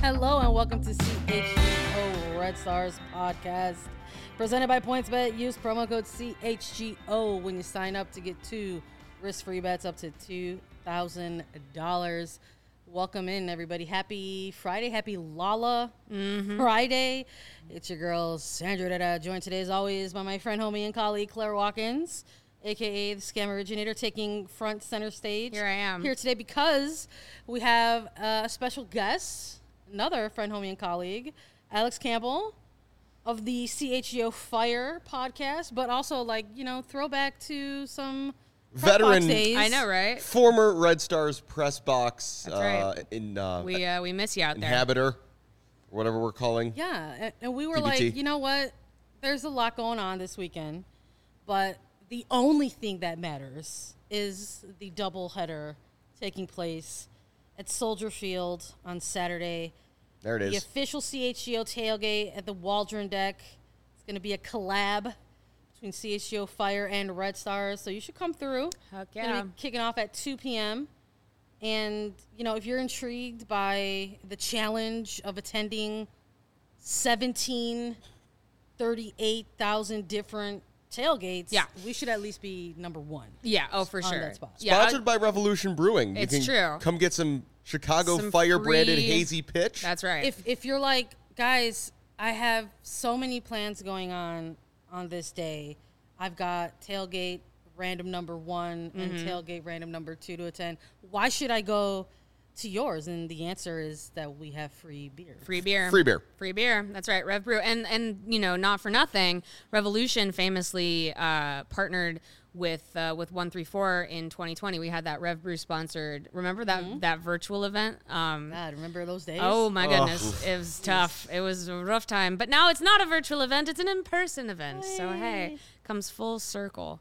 Hello and welcome to CHGO Red Stars podcast, presented by PointsBet. Use promo code CHGO when you sign up to get 2 risk-free bets up to $2,000. Welcome in, everybody. Happy Friday. Happy Lala Friday. It's your girl, Sandra Dada, joined today, as always, by my friend, homie, and colleague, Claire Watkins, a.k.a. the Scam Originator, taking front center stage. Here I am. Here today because we have a special guest, another friend, homie, and colleague, Alex Campbell of the CHGO Fire podcast, but also, throwback to some veteran days. I know, right? Former Red Stars press box. That's right. We miss you out there. Inhabitor, or whatever we're calling. Yeah, and we were TBT. like, you know what? There's a lot going on this weekend, but the only thing that matters is the doubleheader taking place at Soldier Field on Saturday. There it The is. official CHGO tailgate at the Waldron deck. It's going to be a collab between CHGO Fire and Red Stars, so you should come through. Heck It's gonna yeah. be kicking off at 2 p.m. And, if you're intrigued by the challenge of attending 38,000 different tailgates, Yeah. we should at least be number one. Yeah, oh, for On sure. that spot. Yeah, Sponsored by Revolution Brewing. It's you can true. Come get some Chicago Some Fire branded free- hazy pitch. That's right. If you're like, guys, I have so many plans going on this day. I've got tailgate random number 1 and tailgate random number 2 to attend. Why should I go to yours? And the answer is that we have free beer. Free beer. Free beer. Free beer. That's right. Rev Brew. And not for nothing, Revolution famously partnered with 134 in 2020. We had that Rev Brew sponsored. Remember that virtual event? God, remember those days? Oh my goodness, it was tough. It was a rough time. But now it's not a virtual event; it's an in-person event. So hey, comes full circle.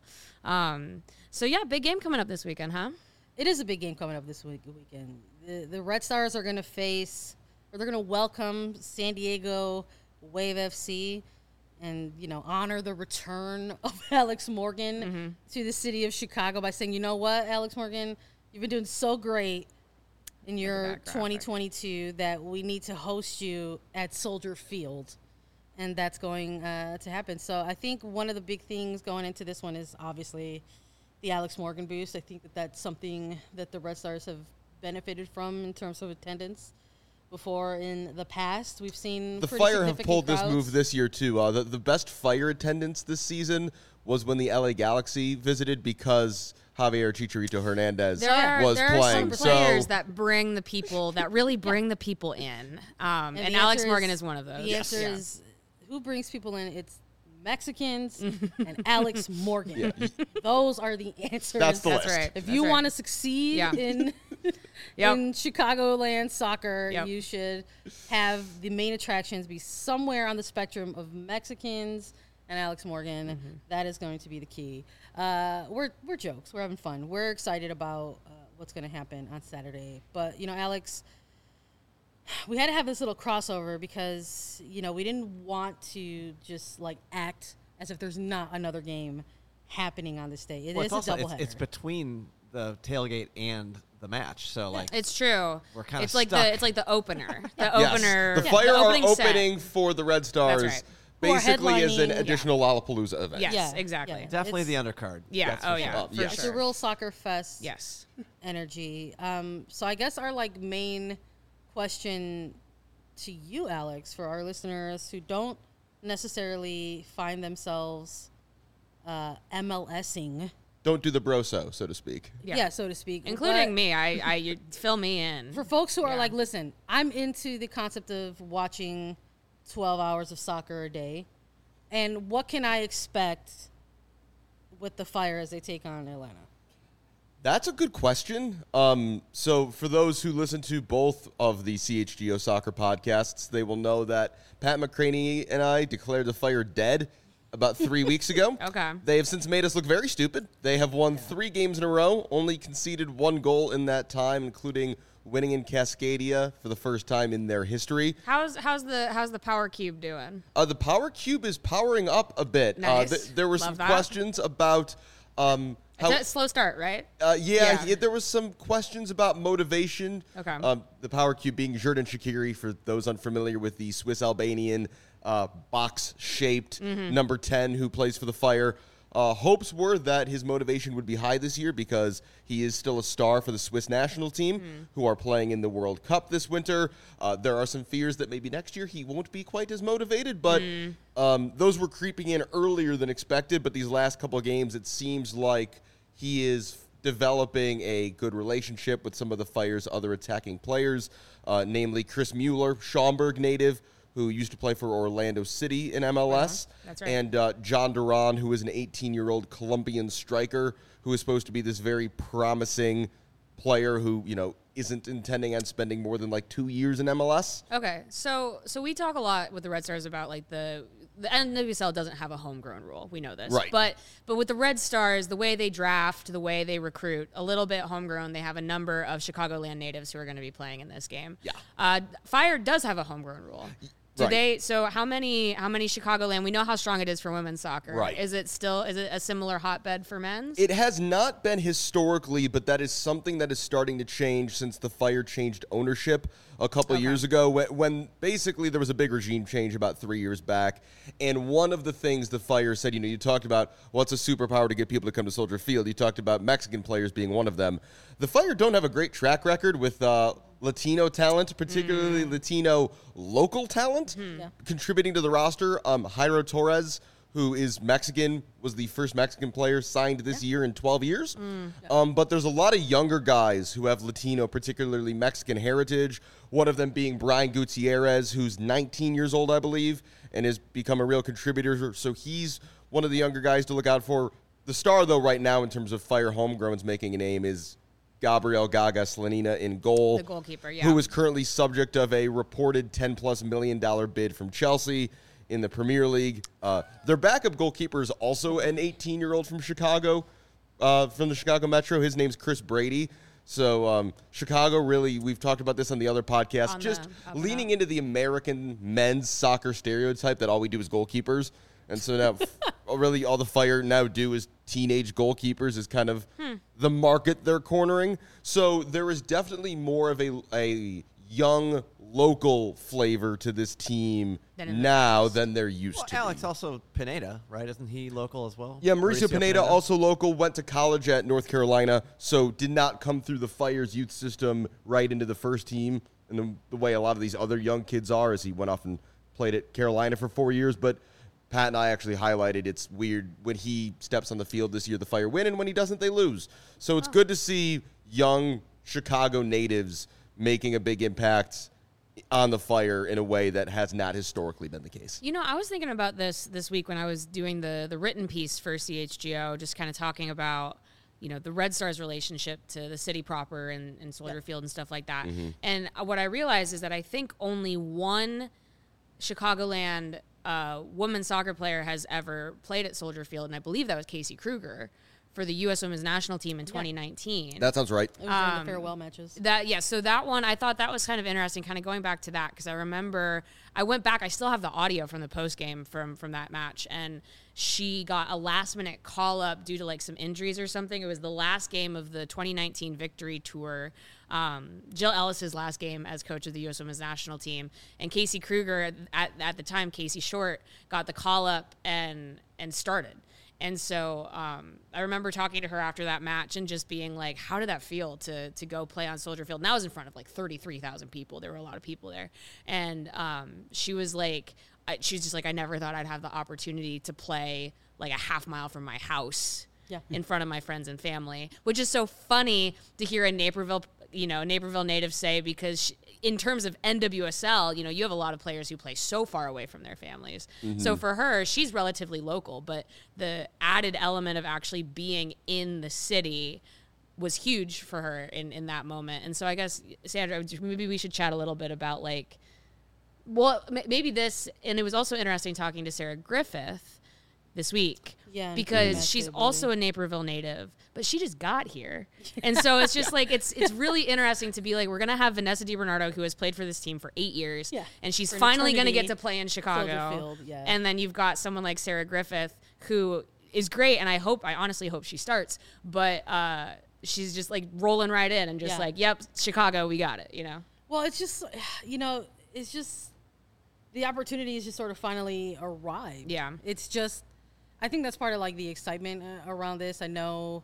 So yeah, big game coming up this weekend, huh? It is a big game coming up this weekend. The Red Stars are going to they're going to welcome San Diego Wave FC and, honor the return of Alex Morgan to the city of Chicago by saying, you know what, Alex Morgan, you've been doing so great in your back graphic. 2022 that we need to host you at Soldier Field. And that's going to happen. So I think one of the big things going into this one is obviously the Alex Morgan boost. I think that's something that the Red Stars have benefited from in terms of attendance. Before in the past, we've seen The pretty Fire have significant pulled this crowds. move this year, too. The best Fire attendance this season was when the LA Galaxy visited because Javier Chicharito Hernandez was there playing. are some players that bring the people, that really bring the people in. And the Alex answer Morgan is one of those. The answer is, who brings people in? It's Mexicans and Alex Morgan. Those are the answers. That's the That's list. right. If That's you right. want to succeed in in Chicagoland soccer, Yep. you should have the main attractions be somewhere on the spectrum of Mexicans and Alex Morgan. That is going to be the key. We're jokes. We're having fun. We're excited about what's going to happen on Saturday. But, Alex, we had to have this little crossover because, we didn't want to just, act as if there's not another game happening on this day. It is It's also a doubleheader. it's between the tailgate and the match, so It's true. We're kinda it's like stuck. it's like the opener. The Yes. opener. The Fire are opening set. opening for the Red Stars. right. Who are Basically, as an headlining- additional Lollapalooza event. Yes, Yeah, exactly. yeah. definitely It's- the undercard. Yeah. That's Oh for yeah. sure. For yes. It's sure. a real soccer fest Yes. energy. So I guess our main question to you, Alex, for our listeners who don't necessarily find themselves MLSing, Don't do the broso, so to speak. Yeah. so to speak, Including But me. You fill me in. For folks who are Yeah. listen, I'm into the concept of watching 12 hours of soccer a day, and what can I expect with the Fire as they take on Atlanta? That's a good question. So for those who listen to both of the CHGO soccer podcasts, they will know that Pat McCraney and I declared the Fire dead about 3 weeks ago. Okay. They have since made us look very stupid. They have won 3 games in a row, only conceded 1 goal in that time, including winning in Cascadia for the first time in their history. How's the Power Cube doing? The Power Cube is powering up a bit. Nice. There were Love some that. questions about It's a slow start, right? There was some questions about motivation. Okay. The power cube being Xherdan Shaqiri, for those unfamiliar with the Swiss-Albanian box-shaped number 10 who plays for the Fire. Hopes were that his motivation would be high this year because he is still a star for the Swiss national team who are playing in the World Cup this winter. There are some fears that maybe next year he won't be quite as motivated, but those were creeping in earlier than expected. But these last couple of games, it seems like he is developing a good relationship with some of the Fire's other attacking players, namely Chris Mueller, Schaumburg native, who used to play for Orlando City in MLS. That's right. And John Duran, who is an 18-year-old Colombian striker who is supposed to be this very promising player who, isn't intending on spending more than like 2 years in MLS. Okay, so we talk a lot with the Red Stars about like the NWSL doesn't have a homegrown rule. We know this, right? But with the Red Stars, the way they draft, the way they recruit, a little bit homegrown. They have a number of Chicagoland natives who are going to be playing in this game. Yeah, Fire does have a homegrown rule. So how many Chicagoland? We know how strong it is for women's soccer. Right. Is it a similar hotbed for men's? It has not been historically, but that is something that is starting to change since the Fire changed ownership a couple of years ago, when basically there was a big regime change about 3 years back. And one of the things the Fire said, you talked about what's a superpower to get people to come to Soldier Field. You talked about Mexican players being one of them. The Fire don't have a great track record with Latino talent, particularly Latino local talent, contributing to the roster. Jairo Torres, who is Mexican, was the first Mexican player signed this year in 12 years. But there's a lot of younger guys who have Latino, particularly Mexican heritage, one of them being Brian Gutierrez, who's 19 years old, I believe, and has become a real contributor. So he's one of the younger guys to look out for. The star, though, right now in terms of Fire homegrowns making a name is Gabriel Gaga Slanina in goal. The goalkeeper, who is currently subject of a reported $10+ million bid from Chelsea in the Premier League. Their backup goalkeeper is also an 18-year-old from Chicago, from the Chicago Metro. His name's Chris Brady. So Chicago really, we've talked about this on the other podcast, just leaning into the American men's soccer stereotype that all we do is goalkeepers. And so now really all the Fire now do is teenage goalkeepers is kind of the market they're cornering. So there is definitely more of a young local flavor to this team now than there used to Alex, be. also Pineda, right? Isn't he local as well? Yeah, Mauricio Pineda, also local, went to college at North Carolina, so did not come through the Fire's youth system right into the first team in the way a lot of these other young kids are, as he went off and played at Carolina for 4 years. But Pat and I actually highlighted it's weird when he steps on the field this year, the Fire win, and when he doesn't, they lose. So it's good to see young Chicago natives making a big impact on the Fire in a way that has not historically been the case. I was thinking about this week when I was doing the written piece for CHGO, just kind of talking about, the Red Stars relationship to the city proper and Soldier Field and stuff like that. And what I realized is that I think only one Chicagoland women's soccer player has ever played at Soldier Field, and I believe that was Casey Kruger for the U.S. Women's National Team in 2019. That sounds right. It was in the farewell matches. So that one, I thought that was kind of interesting, kind of going back to that, because I remember I went back, I still have the audio from the post game from that match, and she got a last minute call up due to like some injuries or something. It was the last game of the 2019 Victory Tour. Jill Ellis's last game as coach of the U.S. Women's National Team, and Casey Kruger at the time, Casey Short, got the call up and started. And so I remember talking to her after that match and just being like, how did that feel to go play on Soldier Field? And that was in front of like 33,000 people. There were a lot of people there. And she was like, she's just like, I never thought I'd have the opportunity to play like a half mile from my house in front of my friends and family, which is so funny to hear a Naperville native say, because in terms of NWSL, you have a lot of players who play so far away from their families. So for her, she's relatively local, but the added element of actually being in the city was huge for her in that moment. And so I guess, Sandra, maybe we should chat a little bit about maybe this, and it was also interesting talking to Sarah Griffith this week, because she's also a Naperville native, but she just got here. And so it's just like, it's really interesting to be like, we're going to have Vanessa DiBernardo, who has played for this team for 8 years, and she's finally going to get to play in Chicago. And then you've got someone like Sarah Griffith, who is great, and I honestly hope she starts, but she's just like rolling right in and just like, yep, Chicago, we got it, you know? Well, it's just, it's just the opportunity is just sort of finally arrived. Yeah. It's just, I think that's part of like the excitement around this. I know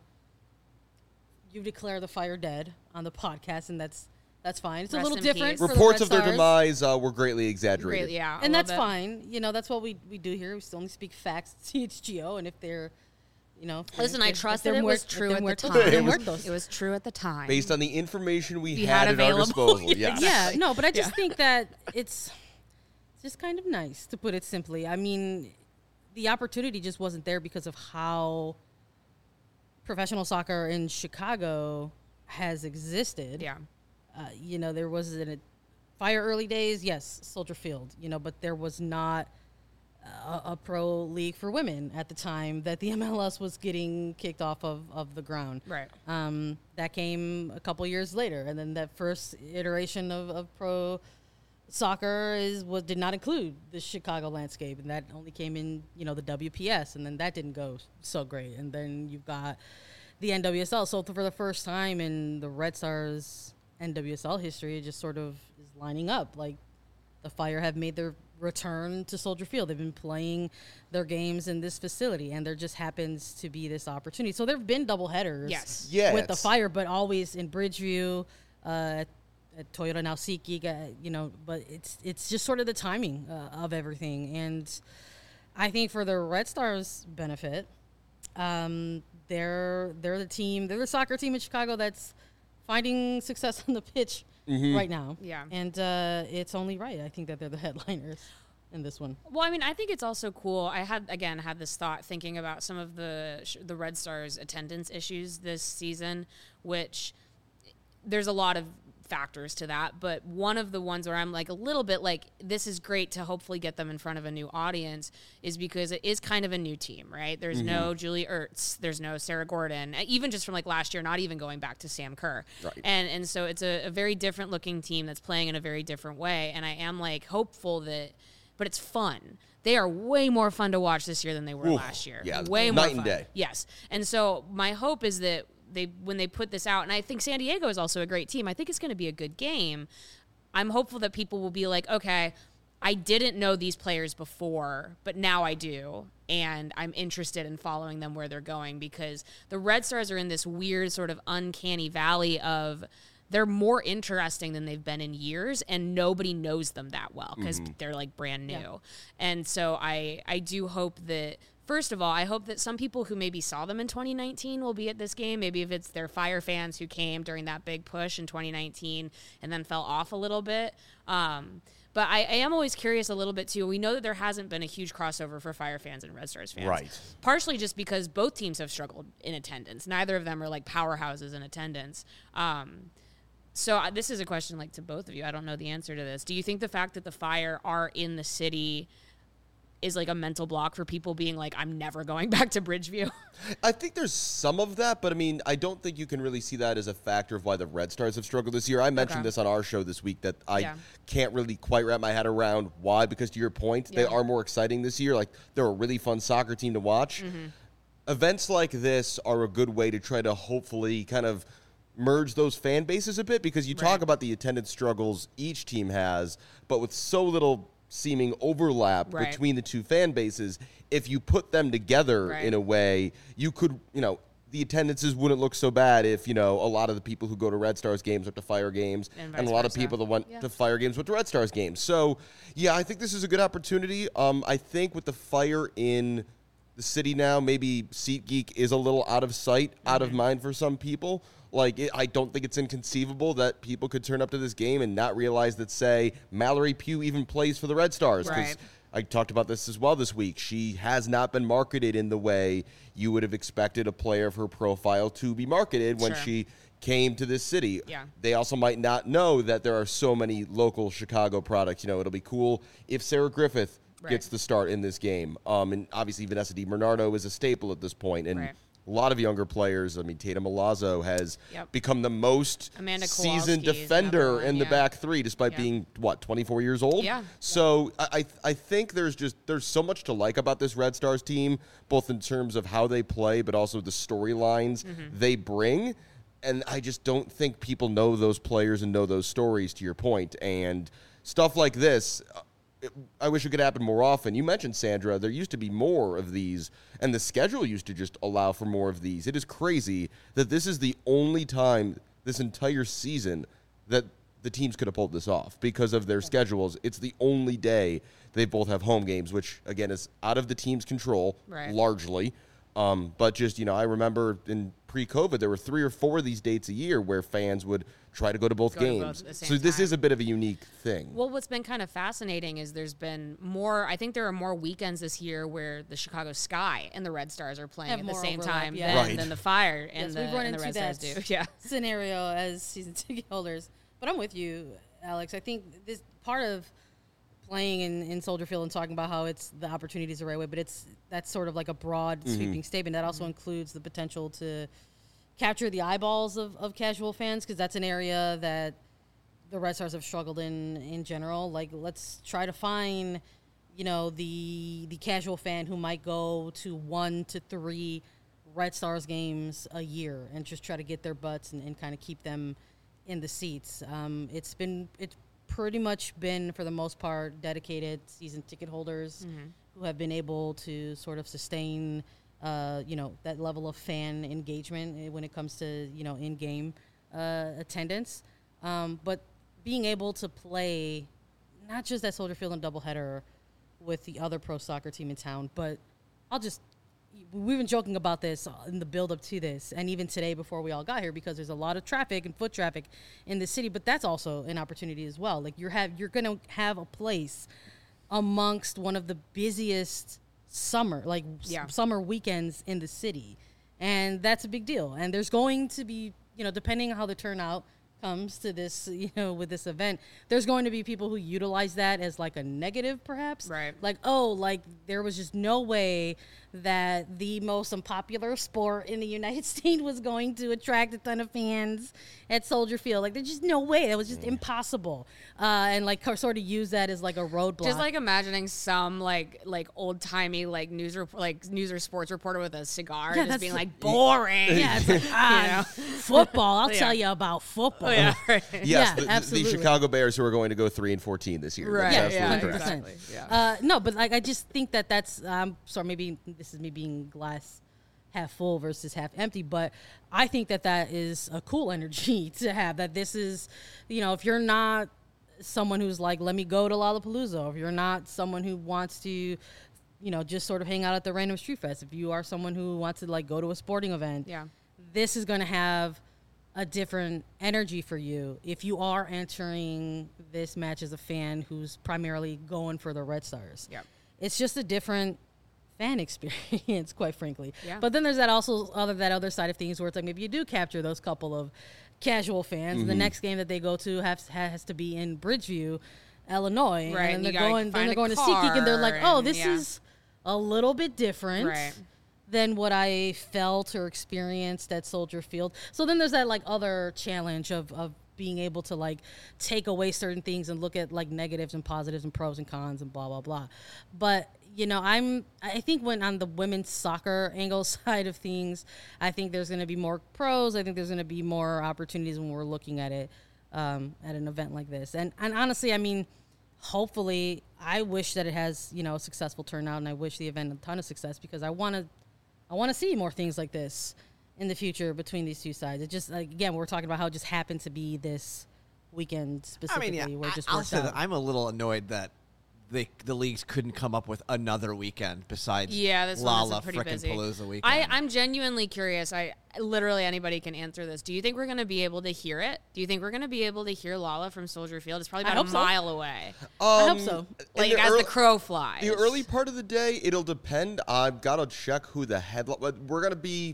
you declare the Fire dead on the podcast, and that's fine. It's Rest a little in different. peace. For Reports the of Red their Stars. demise were greatly exaggerated. Great, yeah. And that's fine. That's what we do here. We still only speak facts at CHGO, and if they're, Listen, I trust that they're it was if true they're at the muertos, time. they're muertos. It was true at the time. Based on the information we had had at our available. disposal. Yes. Yeah, no, but I just think that it's just kind of nice, to put it simply. I mean, the opportunity just wasn't there because of how professional soccer in Chicago has existed. Yeah. There was a Fire early days, yes, Soldier Field, but there was not a pro league for women at the time that the MLS was getting kicked off of the ground. Right. That came a couple years later, and then that first iteration of pro soccer did not include the Chicago landscape, and that only came in the WPS, and then that didn't go so great. And then you've got the NWSL. So for the first time in the Red Stars NWSL history, it just sort of is lining up. Like, the Fire have made their return to Soldier Field. They've been playing their games in this facility, and there just happens to be this opportunity. So there have been double headers with the Fire, but always in Bridgeview, at Toyota now SeatGeek, but it's just sort of the timing of everything. And I think for the Red Stars' benefit, they're the soccer team in Chicago that's finding success on the pitch right now. Yeah. And it's only right, I think, that they're the headliners in this one. Well, I mean, I think it's also cool. I had this thought thinking about some of the Red Stars attendance issues this season, which there's a lot of factors to that, but one of the ones where I'm like a little bit like, this is great to hopefully get them in front of a new audience, is because it is kind of a new team, right? There's no Julie Ertz, there's no Sarah Gordon, even just from like last year, not even going back to Sam Kerr. Right. And so it's a very different looking team that's playing in a very different way. And I am like hopeful but it's fun. They are way more fun to watch this year than they were last year. Yeah, way more night fun. and day. Yes. And so my hope is that when they put this out, and I think San Diego is also a great team, I think it's going to be a good game. I'm hopeful that people will be like, okay, I didn't know these players before, but now I do, and I'm interested in following them where they're going, because the Red Stars are in this weird sort of uncanny valley of they're more interesting than they've been in years, and nobody knows them that well because they're like brand new. Yeah. And so I do hope that, first of all, I hope that some people who maybe saw them in 2019 will be at this game. Maybe if it's their Fire fans who came during that big push in 2019 and then fell off a little bit. But I am always curious a little bit, too. We know that there hasn't been a huge crossover for Fire fans and Red Stars fans. Right. Partially just because both teams have struggled in attendance. Neither of them are like powerhouses in attendance. So this is a question like to both of you. I don't know the answer to this. Do you think the fact that the Fire are in the city is like a mental block for people being like, I'm never going back to Bridgeview? I think there's some of that, but I mean, I don't think you can really see that as a factor of why the Red Stars have struggled this year. I mentioned this on our show this week that I can't really quite wrap my head around why, because to your point, they are more exciting this year. Like, they're a really fun soccer team to watch. Events like this are a good way to try to hopefully kind of merge those fan bases a bit, because you talk about the attendance struggles each team has, but with so little seeming overlap between the two fan bases, if you put them together in a way, you could, the attendances wouldn't look so bad if, a lot of the people who go to Red Stars games went to Fire games, and a lot of people that went to Fire games went to Red Stars games. So, I think this is a good opportunity. I think with the Fire in the city now, maybe SeatGeek is a little out of sight, out of mind for some people. Like, I don't think it's inconceivable that people could turn up to this game and not realize that, say, Mallory Pugh even plays for the Red Stars. Because I talked about this as well this week. She has not been marketed in the way you would have expected a player of her profile to be marketed when she came to this city. They also might not know that there are so many local Chicago products. It'll be cool if Sarah Griffith gets the start in this game. And obviously Vanessa DiBernardo is a staple at this point. And a lot of younger players. I mean, Tatum Milazzo has Yep. become the most Amanda seasoned Kowalski's defender another one, in the yeah. back three, despite Yeah. being, 24 years old? Yeah. So I think there's so much to like about this Red Stars team, both in terms of how they play, but also the storylines they bring. And I just don't think people know those players and know those stories, to your point. And stuff like this, I wish it could happen more often. You mentioned, Sandra, there used to be more of these, and the schedule used to just allow for more of these. It is crazy that this is the only time this entire season that the teams could have pulled this off because of their schedules. It's the only day they both have home games, which, again, is out of the team's control Right. largely. But just, I remember in pre-COVID, there were 3 or 4 of these dates a year where fans would try to go to both Go to games. both at the same So this time. is a bit of a unique thing. Well, what's been kind of fascinating is there's been more. I think there are more weekends this year where the Chicago Sky and the Red Stars are playing Have at the more same overlap, time yeah. Right. than the Fire and Yes, the, we've run and the into Red Stars that do. Yeah. scenario as season ticket holders. But I'm with you, Alex. I think this part of playing in Soldier Field and talking about how it's the opportunity is the right way, but that's sort of like a broad sweeping statement that also includes the potential to capture the eyeballs of casual fans, because that's an area that the Red Stars have struggled in general. Like, let's try to find, the casual fan who might go to 1 to 3 Red Stars games a year and just try to get their butts and kind of keep them in the seats. It's pretty much been, for the most part, dedicated season ticket holders who have been able to sort of sustain, that level of fan engagement when it comes to, in-game attendance. But being able to play not just at Soldier Field and doubleheader with the other pro soccer team in town, but we've been joking about this in the build-up to this, and even today before we all got here, because there's a lot of traffic and foot traffic in the city. But that's also an opportunity as well. Like, you're going to have a place amongst one of the busiest summer weekends in the city, and that's a big deal. And there's going to be, depending on how the turnout comes to this, with this event, there's going to be people who utilize that as like a negative, perhaps. Right. Like, there was just no way that the most unpopular sport in the United States was going to attract a ton of fans at Soldier Field. Like, there's just no way. It was just impossible. And like, sort of use that as like a roadblock. Just like imagining some like old timey news or sports reporter with a cigar, Yeah, just that's being the- like boring. Yeah, it's like, football. I'll tell you about football. Oh, yeah, right. Yes, Yeah, the absolutely. Chicago Bears, who are going to go 3-14 this year. Right. That's Yeah, absolutely correct. 100%. exactly. Yeah. No, but like, I just think that's sorry, maybe this is me being glass half full versus half empty, but I think that is a cool energy to have. That this is, if you're not someone who's like, let me go to Lollapalooza, or if you're not someone who wants to, just sort of hang out at the random street fest, if you are someone who wants to like go to a sporting event, Yeah. this is going to have a different energy for you if you are entering this match as a fan who's primarily going for the Red Stars. Yeah. It's just a different fan experience, quite frankly. Yeah. But then there's that other side of things where it's like, maybe you do capture those couple of casual fans, and the next game that they go to has to be in Bridgeview, Illinois, Right, and and they're you gotta going find a to SeatGeek, and they're like, car, oh, and this yeah. is a little bit different Right. than what I felt or experienced at Soldier Field. So then there's that like other challenge of being able to like take away certain things and look at like negatives and positives and pros and cons and blah blah blah. But I think when on the women's soccer angle side of things, I think there's going to be more pros. I think there's going to be more opportunities when we're looking at it at an event like this. And honestly, I mean, hopefully, I wish that it has a successful turnout, and I wish the event a ton of success, because I want to see more things like this in the future between these two sides. It just, like, again, we're talking about how it just happened to be this weekend specifically, where it just I'll worked say that out. I'm a little annoyed that the leagues couldn't come up with another weekend besides This Lala one is pretty frickin' busy. Palooza weekend. I'm genuinely curious. Literally anybody can answer this. Do you think we're going to be able to hear it? Do you think we're going to be able to hear Lala from Soldier Field? It's probably I about hope a so. mile away. I hope so. Like in the as early- the crow flies. The early part of the day, it'll depend. I've got to check who the headline. We're going to be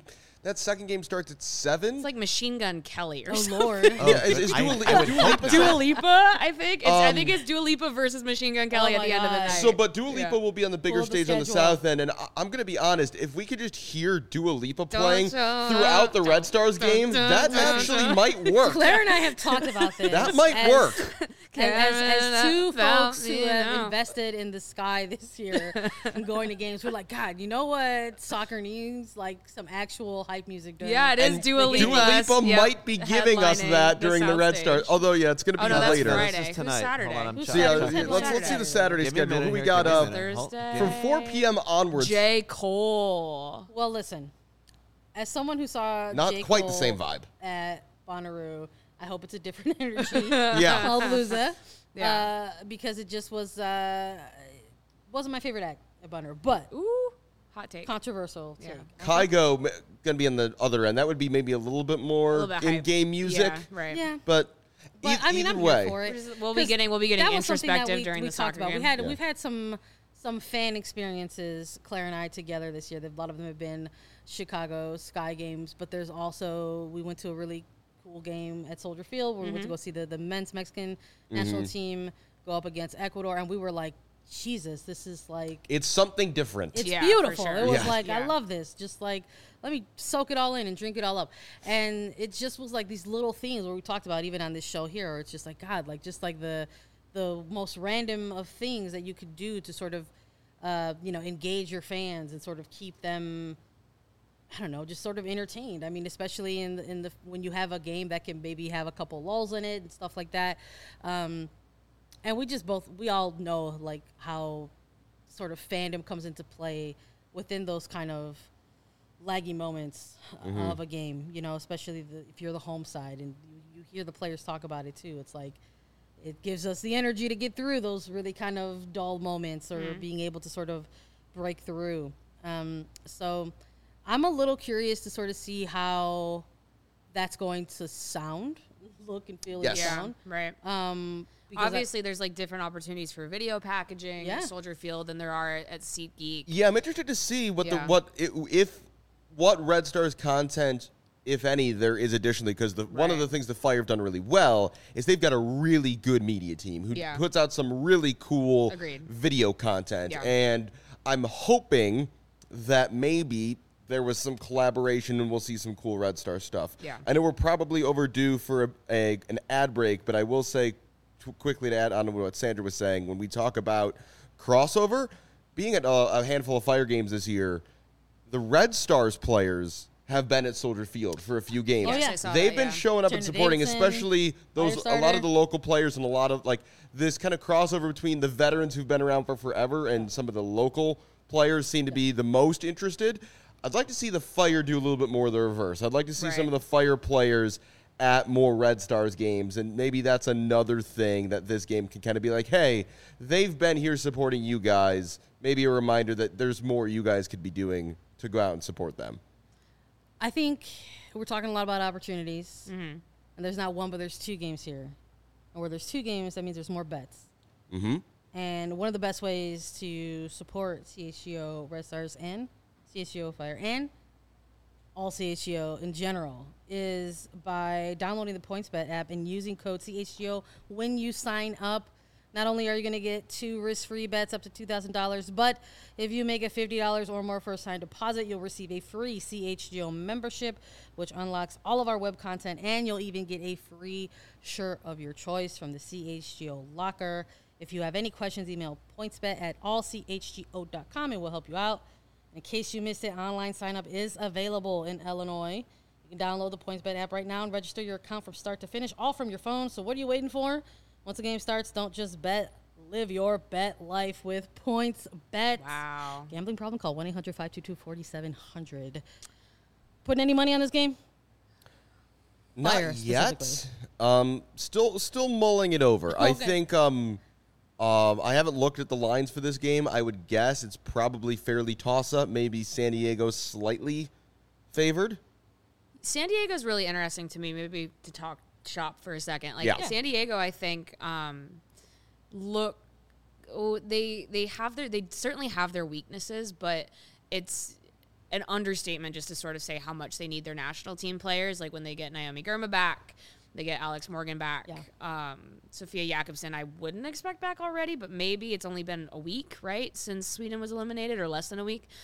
That second game starts at 7. It's like Machine Gun Kelly or Oh something. Lord. Yeah, is Dua Lipa? Dua Lipa, I think. I think it's Dua Lipa versus Machine Gun Kelly Oh at the my end of the God. night. So, but Dua Lipa will be on the bigger Pull the stage on the schedule. south end, and I'm going to be honest. If we could just hear Dua Lipa playing show up. throughout the Red Stars game, that actually might work. Claire and I have talked about this. That might as- work. As two folks who You have know. invested in the Sky this year and going to games, we're like, God, you know what soccer needs? Like some actual hype music. During Yeah, it is And Dua Lipa. Dua Lipa Yep, might be giving us headlining that during the Red Soundstage. Stars. Although, yeah, it's going to be Oh no, that's later. Friday. This is Who's tonight. Saturday? Hold on, I'm Who's So, yeah, Saturday? yeah, let's see the Saturday Give me a schedule. minute Who we here, got give me a minute. Thursday. from 4 p.m. onwards? J. Cole. Well, listen, as someone who saw Not J. quite the Cole same vibe. at Bonnaroo, I hope it's a different energy. Yeah. Lollapalooza. Yeah. Because it just wasn't my favorite act at Bonnaroo, but Ooh, hot take. controversial Yeah. take. Kygo going to be on the other end. That would be maybe a little bit A more little bit hype. in-game music, Yeah, right. Yeah. but, But I mean, either I'm way. here for it. We'll be 'Cause getting that was something that introspective during we the talked soccer about. game. We've had some fan experiences, Claire and I together this year. A lot of them have been Chicago Sky games, but there's also we went to a really cool game at Soldier Field where we went to go see the men's Mexican national team go up against Ecuador, and we were like, Jesus, this is like It's something different. it's Yeah, for beautiful. sure. It was Yeah. like, I Yeah. love this. Just like, let me soak it all in and drink it all up. And it just was like these little things where we talked about even on this show here. Where it's just like, God, like just like the most random of things that you could do to sort of, engage your fans and sort of keep them, I don't know, just sort of entertained. I mean, especially in the when you have a game that can maybe have a couple lulls in it and stuff like that. And we all know like how sort of fandom comes into play within those kind of laggy moments of a game, especially if you're the home side and you hear the players talk about it too. It's like it gives us the energy to get through those really kind of dull moments or being able to sort of break through. So I'm a little curious to sort of see how that's going to sound, look and feel Yes. and Yeah, sound. right. Because Obviously, there's like different opportunities for video packaging Yeah. at Soldier Field than there are at SeatGeek. Yeah, I'm interested to see what Yeah. what Red Stars content, if any, there is additionally, because one of Right. the things the Fire have done really well is they've got a really good media team who Yeah. puts out some really cool Agreed. video content, Yeah. and I'm hoping that maybe there was some collaboration and we'll see some cool Red Star stuff. Yeah. I know we're probably overdue for an ad break, but I will say quickly to add on to what Sandra was saying, when we talk about crossover, being at a handful of Fire games this year, the Red Stars players have been at Soldier Field for a few games. Oh, yeah. I saw They've that, been yeah. showing up and Jenna supporting, Davidson, especially a lot Firestarter. of the local players and a lot of like this kind of crossover between the veterans who've been around for forever and some of the local players seem to be the most interested. I'd like to see the Fire do a little bit more of the reverse. I'd like to see some Right. of the Fire players at more Red Stars games, and maybe that's another thing that this game can kind of be like, hey, they've been here supporting you guys. Maybe a reminder that there's more you guys could be doing to go out and support them. I think we're talking a lot about opportunities, and there's not one, but there's two games here. And where there's two games, that means there's more bets. Mm-hmm. And one of the best ways to support CHGO Red Stars and CHGO Fire and all CHGO in general is by downloading the PointsBet app and using code CHGO when you sign up. Not only are you going to get 2 risk-free bets up to $2,000, but if you make a $50 or more first-time deposit, you'll receive a free CHGO membership, which unlocks all of our web content, and you'll even get a free shirt of your choice from the CHGO locker. If you have any questions, email pointsbet@allchgo.com, and we'll help you out. In case you missed it, online sign-up is available in Illinois. You can download the PointsBet app right now and register your account from start to finish, all from your phone. So what are you waiting for? Once the game starts, don't just bet. Live your bet life with PointsBet. Wow. Gambling problem? Call 1-800-522-4700. Putting any money on this game? Fire, Not yet. specifically. Still mulling it over. I Okay. think I haven't looked at the lines for this game. I would guess it's probably fairly toss-up. Maybe San Diego slightly favored. San Diego's really interesting to me, maybe to talk shop for a second. Like Yeah. San Diego, I think they certainly have their weaknesses, but it's an understatement just to sort of say how much they need their national team players. Like when they get Naomi Girma back, they get Alex Morgan back. Yeah. Sophia Jakobsen, I wouldn't expect back already, but maybe it's only been a week, right, since Sweden was eliminated, or less than a week.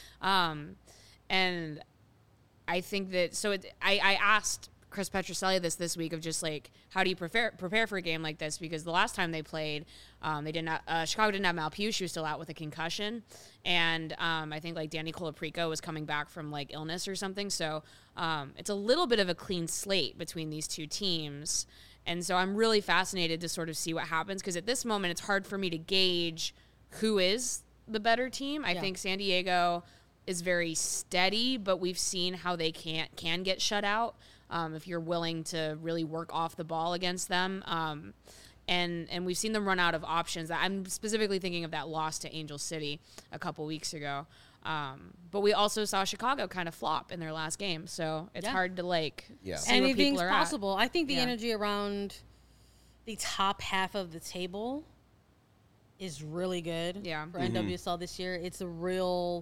And I think that, so I asked Chris Petroselli this week of just like, how do you prepare for a game like this? Because the last time they played, they did not, Chicago didn't have Malpugh. She was still out with a concussion. And I think like Danny Colaprico was coming back from like illness or something. So it's a little bit of a clean slate between these two teams. And so I'm really fascinated to sort of see what happens, because at this moment it's hard for me to gauge who is the better team. I think San Diego is very steady, but we've seen how they can get shut out if you're willing to really work off the ball against them. And we've seen them run out of options. I'm specifically thinking of that loss to Angel City a couple weeks ago. But we also saw Chicago kind of flop in their last game. So it's hard to see where anything's people are possible. at. I think the energy around the top half of the table is really good for NWSL this year. It's a real,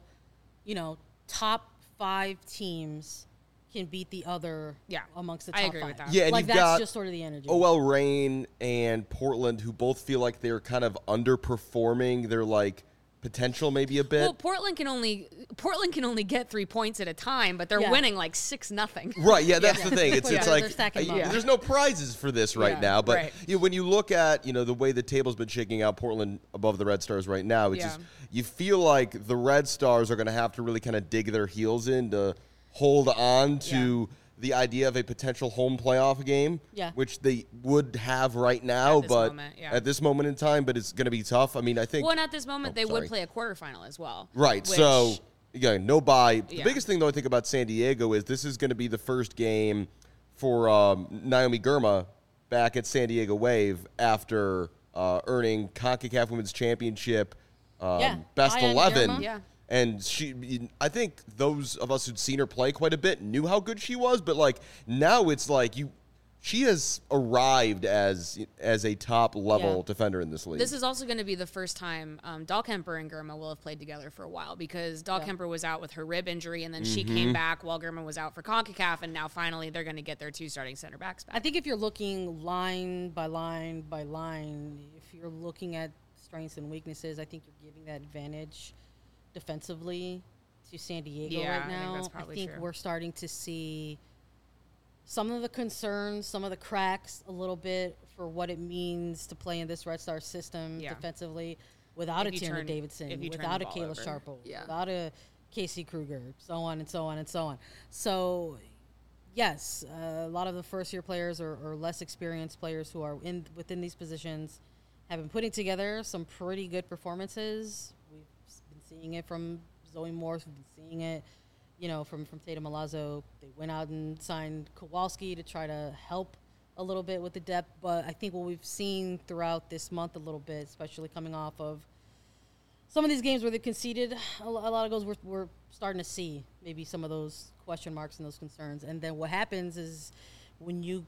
top 5 teams can beat the other amongst the top 5. I agree with that. Yeah, and like you've that's got just sort of the energy. OL Reign and Portland, who both feel like they're kind of underperforming their potential maybe a bit. Well, Portland can only get 3 points at a time, but they're winning 6-0. Right, yeah, that's the thing. It's They're like stacking them up. there's no prizes for this right now. But right. when you look at the way the table's been shaking out, Portland above the Red Stars right now, it's just you feel like the Red Stars are going to have to really kind of dig their heels in to hold on to the idea of a potential home playoff game, which they would have right now, at this moment in time, but it's going to be tough. I mean, I think... Well, and at this moment, they would play a quarterfinal as well. Right, so, no bye. The biggest thing, though, I think about San Diego is this is going to be the first game for Naomi Girma back at San Diego Wave after earning CONCACAF Women's Championship best 11. Yeah. And I think those of us who'd seen her play quite a bit knew how good she was, but now it's she has arrived as a top level defender in this league. This is also going to be the first time Dahlkemper and Girma will have played together for a while, because Dahlkemper was out with her rib injury, and then she came back while Girma was out for CONCACAF, and now finally they're going to get their 2 starting center backs back. I think if you're looking line by line by line, if you're looking at strengths and weaknesses, I think you're giving that advantage defensively to San Diego right now. I think we're starting to see some of the concerns, some of the cracks a little bit for what it means to play in this Red Star system defensively without a Tierney Davidson, without a Kayla Sharple, without a Casey Kruger, so on and so on and so on. So, yes, a lot of the first-year players or less experienced players who are within these positions have been putting together some pretty good performances. Seeing it from Zoe Morse, we've been seeing it, from Tatum Milazzo. They went out and signed Kowalski to try to help a little bit with the depth. But I think what we've seen throughout this month a little bit, especially coming off of some of these games where they've conceded a lot of goals, we're starting to see maybe some of those question marks and those concerns. And then what happens is when you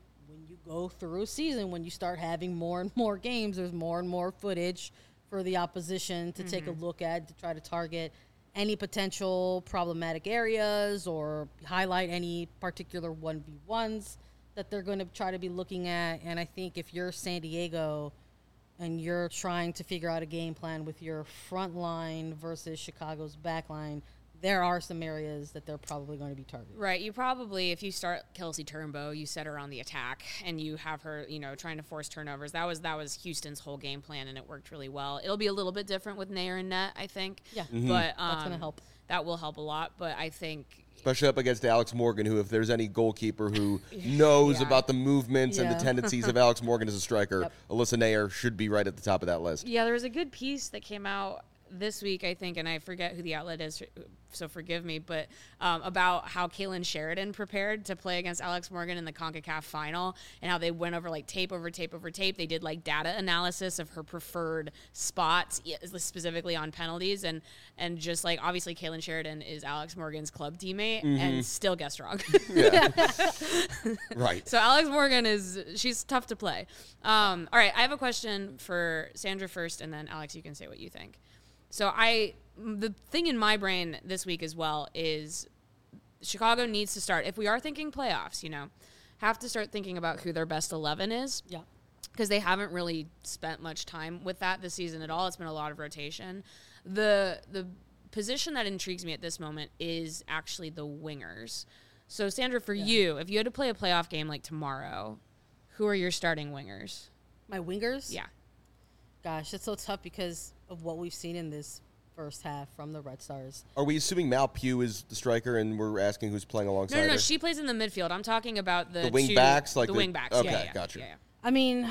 go through a season, when you start having more and more games, there's more and more footage for the opposition to take a look at, to try to target any potential problematic areas or highlight any particular 1v1s that they're going to try to be looking at. And I think if you're San Diego and you're trying to figure out a game plan with your front line versus Chicago's back line, there are some areas that they're probably going to be targeted. Right. You probably, if you start Kelsey Turnbow, you set her on the attack and you have her, trying to force turnovers. That was Houston's whole game plan, and it worked really well. It'll be a little bit different with Nair and net, I think. Yeah. But that's going to help. That will help a lot. But I think, especially up against Alex Morgan, who, if there's any goalkeeper who knows about the movements and the tendencies of Alex Morgan as a striker, Alyssa Nair should be right at the top of that list. Yeah, there was a good piece that came out this week, I think, and I forget who the outlet is, so forgive me, but about how Kaylin Sheridan prepared to play against Alex Morgan in the CONCACAF final, and how they went over tape over tape over tape. They did data analysis of her preferred spots, specifically on penalties, and just obviously Kaylin Sheridan is Alex Morgan's club teammate and still guessed wrong. Right. So Alex Morgan she's tough to play. All right, I have a question for Sandra first, and then Alex, you can say what you think. So the thing in my brain this week as well is Chicago needs to start. If we are thinking playoffs, have to start thinking about who their best 11 is. Yeah. Because they haven't really spent much time with that this season at all. It's been a lot of rotation. The position that intrigues me at this moment is actually the wingers. So, Sandra, for you, if you had to play a playoff game like tomorrow, who are your starting wingers? My wingers? Yeah. Gosh, it's so tough because of what we've seen in this first half from the Red Stars. Are we assuming Mal Pugh is the striker, and we're asking who's playing alongside No. her? She plays in the midfield. I'm talking about the wing two, backs, like the wing backs. Okay, yeah. gotcha. Yeah. I mean,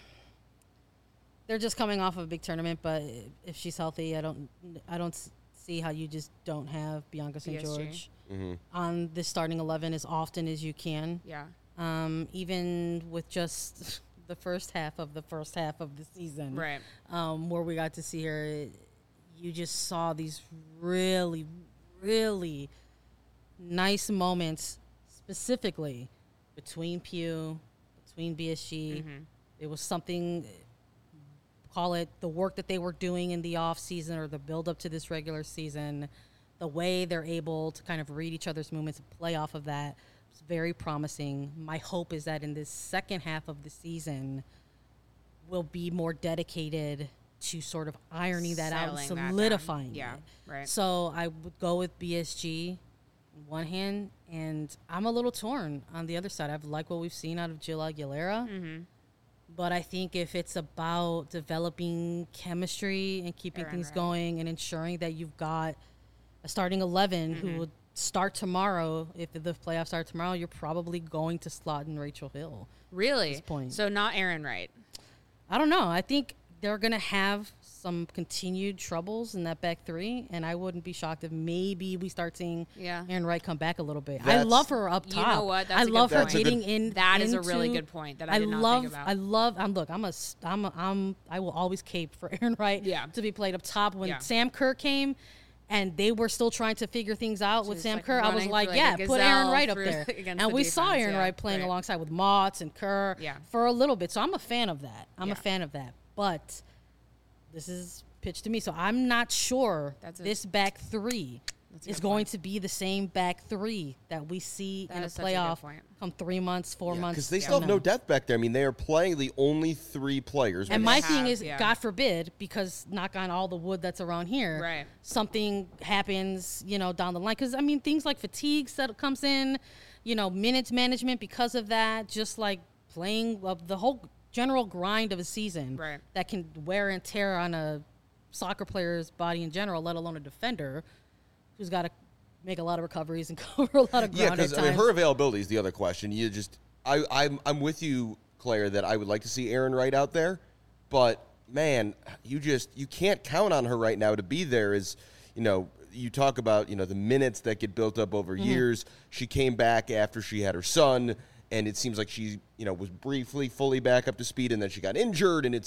they're just coming off of a big tournament, but if she's healthy, I don't see how you just don't have Bianca St. BSG. George on the starting 11 as often as you can. Yeah. Even with just the first half of the season, Right. Where we got to see her, you just saw these really, really nice moments, specifically between Pugh, between BSG. It was something, call it the work that they were doing in the off season or the build up to this regular season. The way they're able to kind of read each other's movements and play off of that is very promising. My hope is that in this second half of the season, we'll be more dedicated to sort of ironing that out and Settling that down. solidifying Yeah, it. right. So I would go with BSG on one hand, and I'm a little torn on the other side. I've liked what we've seen out of Jill Aguilera. But I think if it's about developing chemistry and keeping Erin things Wright. going and ensuring that you've got a starting 11 who would start tomorrow, if the playoffs start tomorrow, you're probably going to slot in Rachel Hill. Really? At this point. So not Erin Wright. I don't know. I think they're going to have some continued troubles in that back three, and I wouldn't be shocked if maybe we start seeing Yeah. Erin Wright come back a little bit. I That's- love her up You top. know what? That's I a good love her point. That's a getting good- in. That is a really into- good point that I did not think about. I love. Look, I will always cape for Erin Wright Yeah. to be played up top. When Yeah. Sam Kerr came, and they were still trying to figure things out with was, Sam like, Kerr, I was running like, through, yeah, like a put Erin gazelle Wright up through there. against And the we saw defense, Erin yeah, Wright playing right. alongside with Motts and Kerr Yeah. for a little bit. So I'm a fan of that. I'm Yeah. a fan of that. But this is pitched to me, so I'm not sure this back three That's a is good going point. to be the same back three that we see That in a is such a good playoff point. come 3 months, 4 months. Because they from still have now. no depth back there. I mean, they are playing the only three players. And they my have, thing is, yeah. God forbid, because knock on all the wood that's around here, Right. something happens, down the line. Because, I mean, things like fatigue that comes in, minutes management because of that, just like playing the whole general grind of a season Right. that can wear and tear on a soccer player's body in general, let alone a defender who's got to make a lot of recoveries and cover a lot of ground. Yeah, because at I mean, times. her availability is the other question. I'm with you, Claire, that I would like to see Erin Wright out there, but man, you can't count on her right now to be there. You talk about the minutes that get built up over years. She came back after she had her son, and it seems like she was briefly fully back up to speed, and then she got injured, and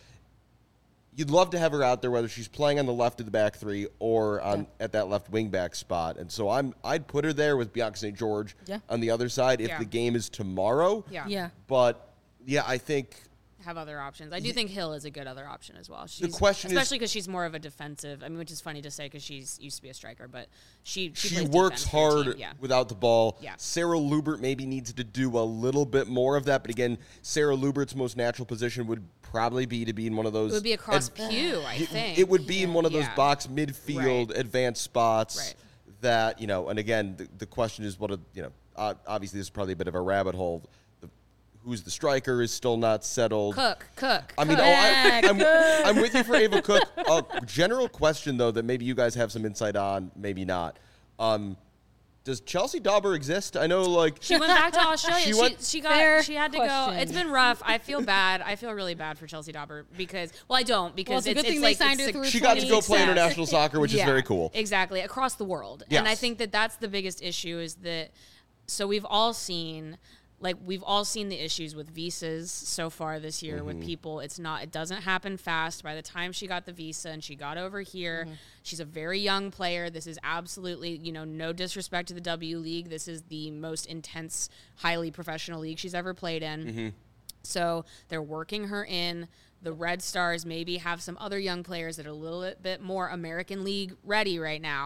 you'd love to have her out there, whether she's playing on the left of the back three or at that left wing back spot. And so I'd put her there with Bianca St. George on the other side if Yeah. the game is tomorrow. Yeah. Yeah. But yeah, I think Have other options. I do think Hill is a good other option as well. She's, question is- especially because she's more of a defensive. I mean, which is funny to say because she's used to be a striker, but she she plays works defense for the hard team. Yeah. without the ball. Yeah. Sarah Lubert maybe needs to do a little bit more of that. But again, Sarah Lubert's most natural position would probably be to be in one of those. It would be across Pew, I think. It would be in one of those Yeah. box midfield Right. advanced spots Right. that, and again, the question is obviously this is probably a bit of a rabbit hole. Who's the striker is still not settled. Cook. I mean, I'm with you for Ava Cook. General question, though, that maybe you guys have some insight on, maybe not. Does Chelsea Dauber exist? I know, She went back to Australia. Fair She had to question. go. It's been rough. I feel bad. I feel really bad for Chelsea Dauber because I don't because it's a good thing they signed her through she got to go play 20 international soccer, which is very cool. Exactly, across the world. And I Yes. think that that's the biggest issue is that so we've all seen the issues with visas so far this year with people. It doesn't happen fast. By the time she got the visa and she got over here, she's a very young player. This is absolutely, no disrespect to the W League. This is the most intense, highly professional league she's ever played in. So they're working her in. The Red Stars maybe have some other young players that are a little bit more American League ready right now.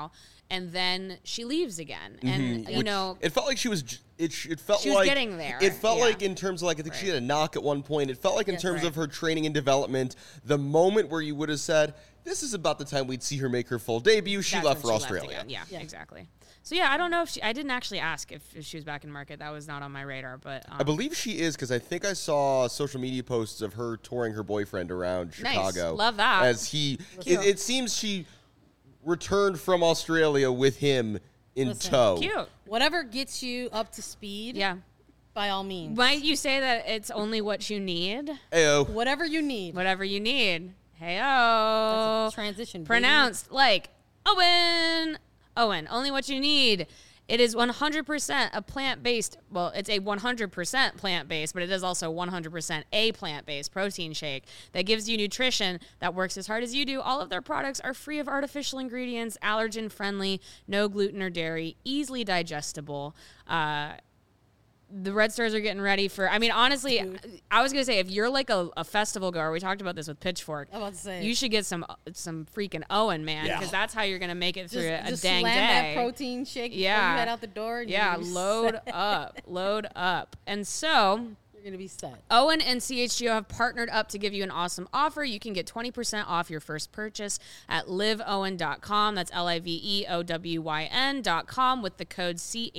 and then she leaves again. And you know, it felt like she was. It felt she was like getting there. It felt Yeah. like in terms of like I think she had a knock at one point. It felt like in terms Right. of her training and development, the moment where you would have said, "This is about the time we'd see her make her full debut." She That's left when for she Australia. again. Yeah, Yeah. exactly. So yeah, I don't know if I didn't actually ask if she was back in market. That was not on my radar, but I believe she is because I think I saw social media posts of her touring her boyfriend around Nice. Chicago. Love that. As it seems she returned from Australia with him in Listen. tow. cute. Whatever gets you up to speed, Yeah. by all means. Might you say that it's only what you need? Ayo. Whatever you need. Whatever you need. Hey-o. That's a transition. baby. Pronounced like Owen. Owen, only what you need. It is 100% a plant-based, well, it's a 100% plant-based, but it is also 100% a plant-based protein shake that gives you nutrition that works as hard as you do. All of their products are free of artificial ingredients, allergen-friendly, no gluten or dairy, easily digestible. The Red Stars are getting ready for, I mean, honestly, I was going to say, if you're like a festival goer, we talked about this with Pitchfork, I'm about to say. you should get some freaking Owen, man, Yeah. because that's how you're going to make it through a just dang slam day. that protein shake before Yeah. you head out the door. And Yeah, you're gonna be load set. up, load up. And so You're going to be set. Owen and CHGO have partnered up to give you an awesome offer. You can get 20% off your first purchase at liveowen.com. That's LIVEOWYN.com with the code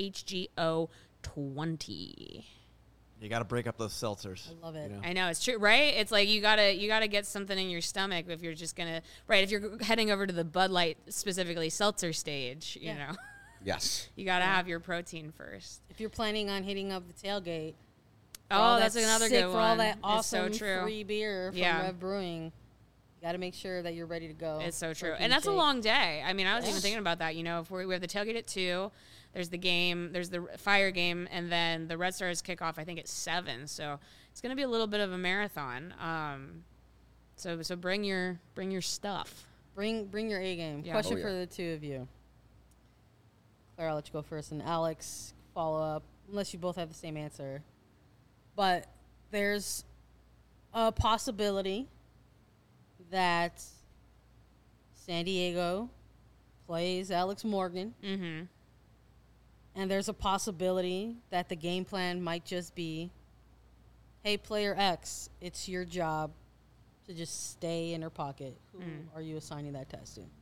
CHGO20. You got to break up those seltzers. I love it. I know, it's true, right? It's like you gotta get something in your stomach if you're just gonna if you're heading over to the Bud Light, specifically seltzer stage, you know. Yes. You gotta have your protein first. If you're planning on hitting up the tailgate, for Oh, all that's that another sick, good for all one. that It's so awesome true. free beer from Yeah. Rev Brewing, you got to make sure that you're ready to go. It's so true. Protein And that's a shake. long day. I mean, I was even Yes. thinking about that. You know, if we have the tailgate at 2, there's the game, there's the Fire game, and then the Red Stars kick off, I think, at 7. So it's going to be a little bit of a marathon. So bring your stuff. Bring your A game. Yeah. Question Oh, yeah. for the two of you. Claire, I'll let you go first, and Alex, follow up, unless you both have the same answer. But there's a possibility that San Diego plays Alex Morgan. Mm-hmm. And there's a possibility that the game plan might just be, hey, player X, it's your job to just stay in her pocket. Who are you assigning that test to?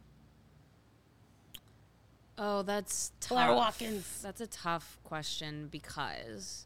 Oh, that's tough. Claire Watkins. That's a tough question because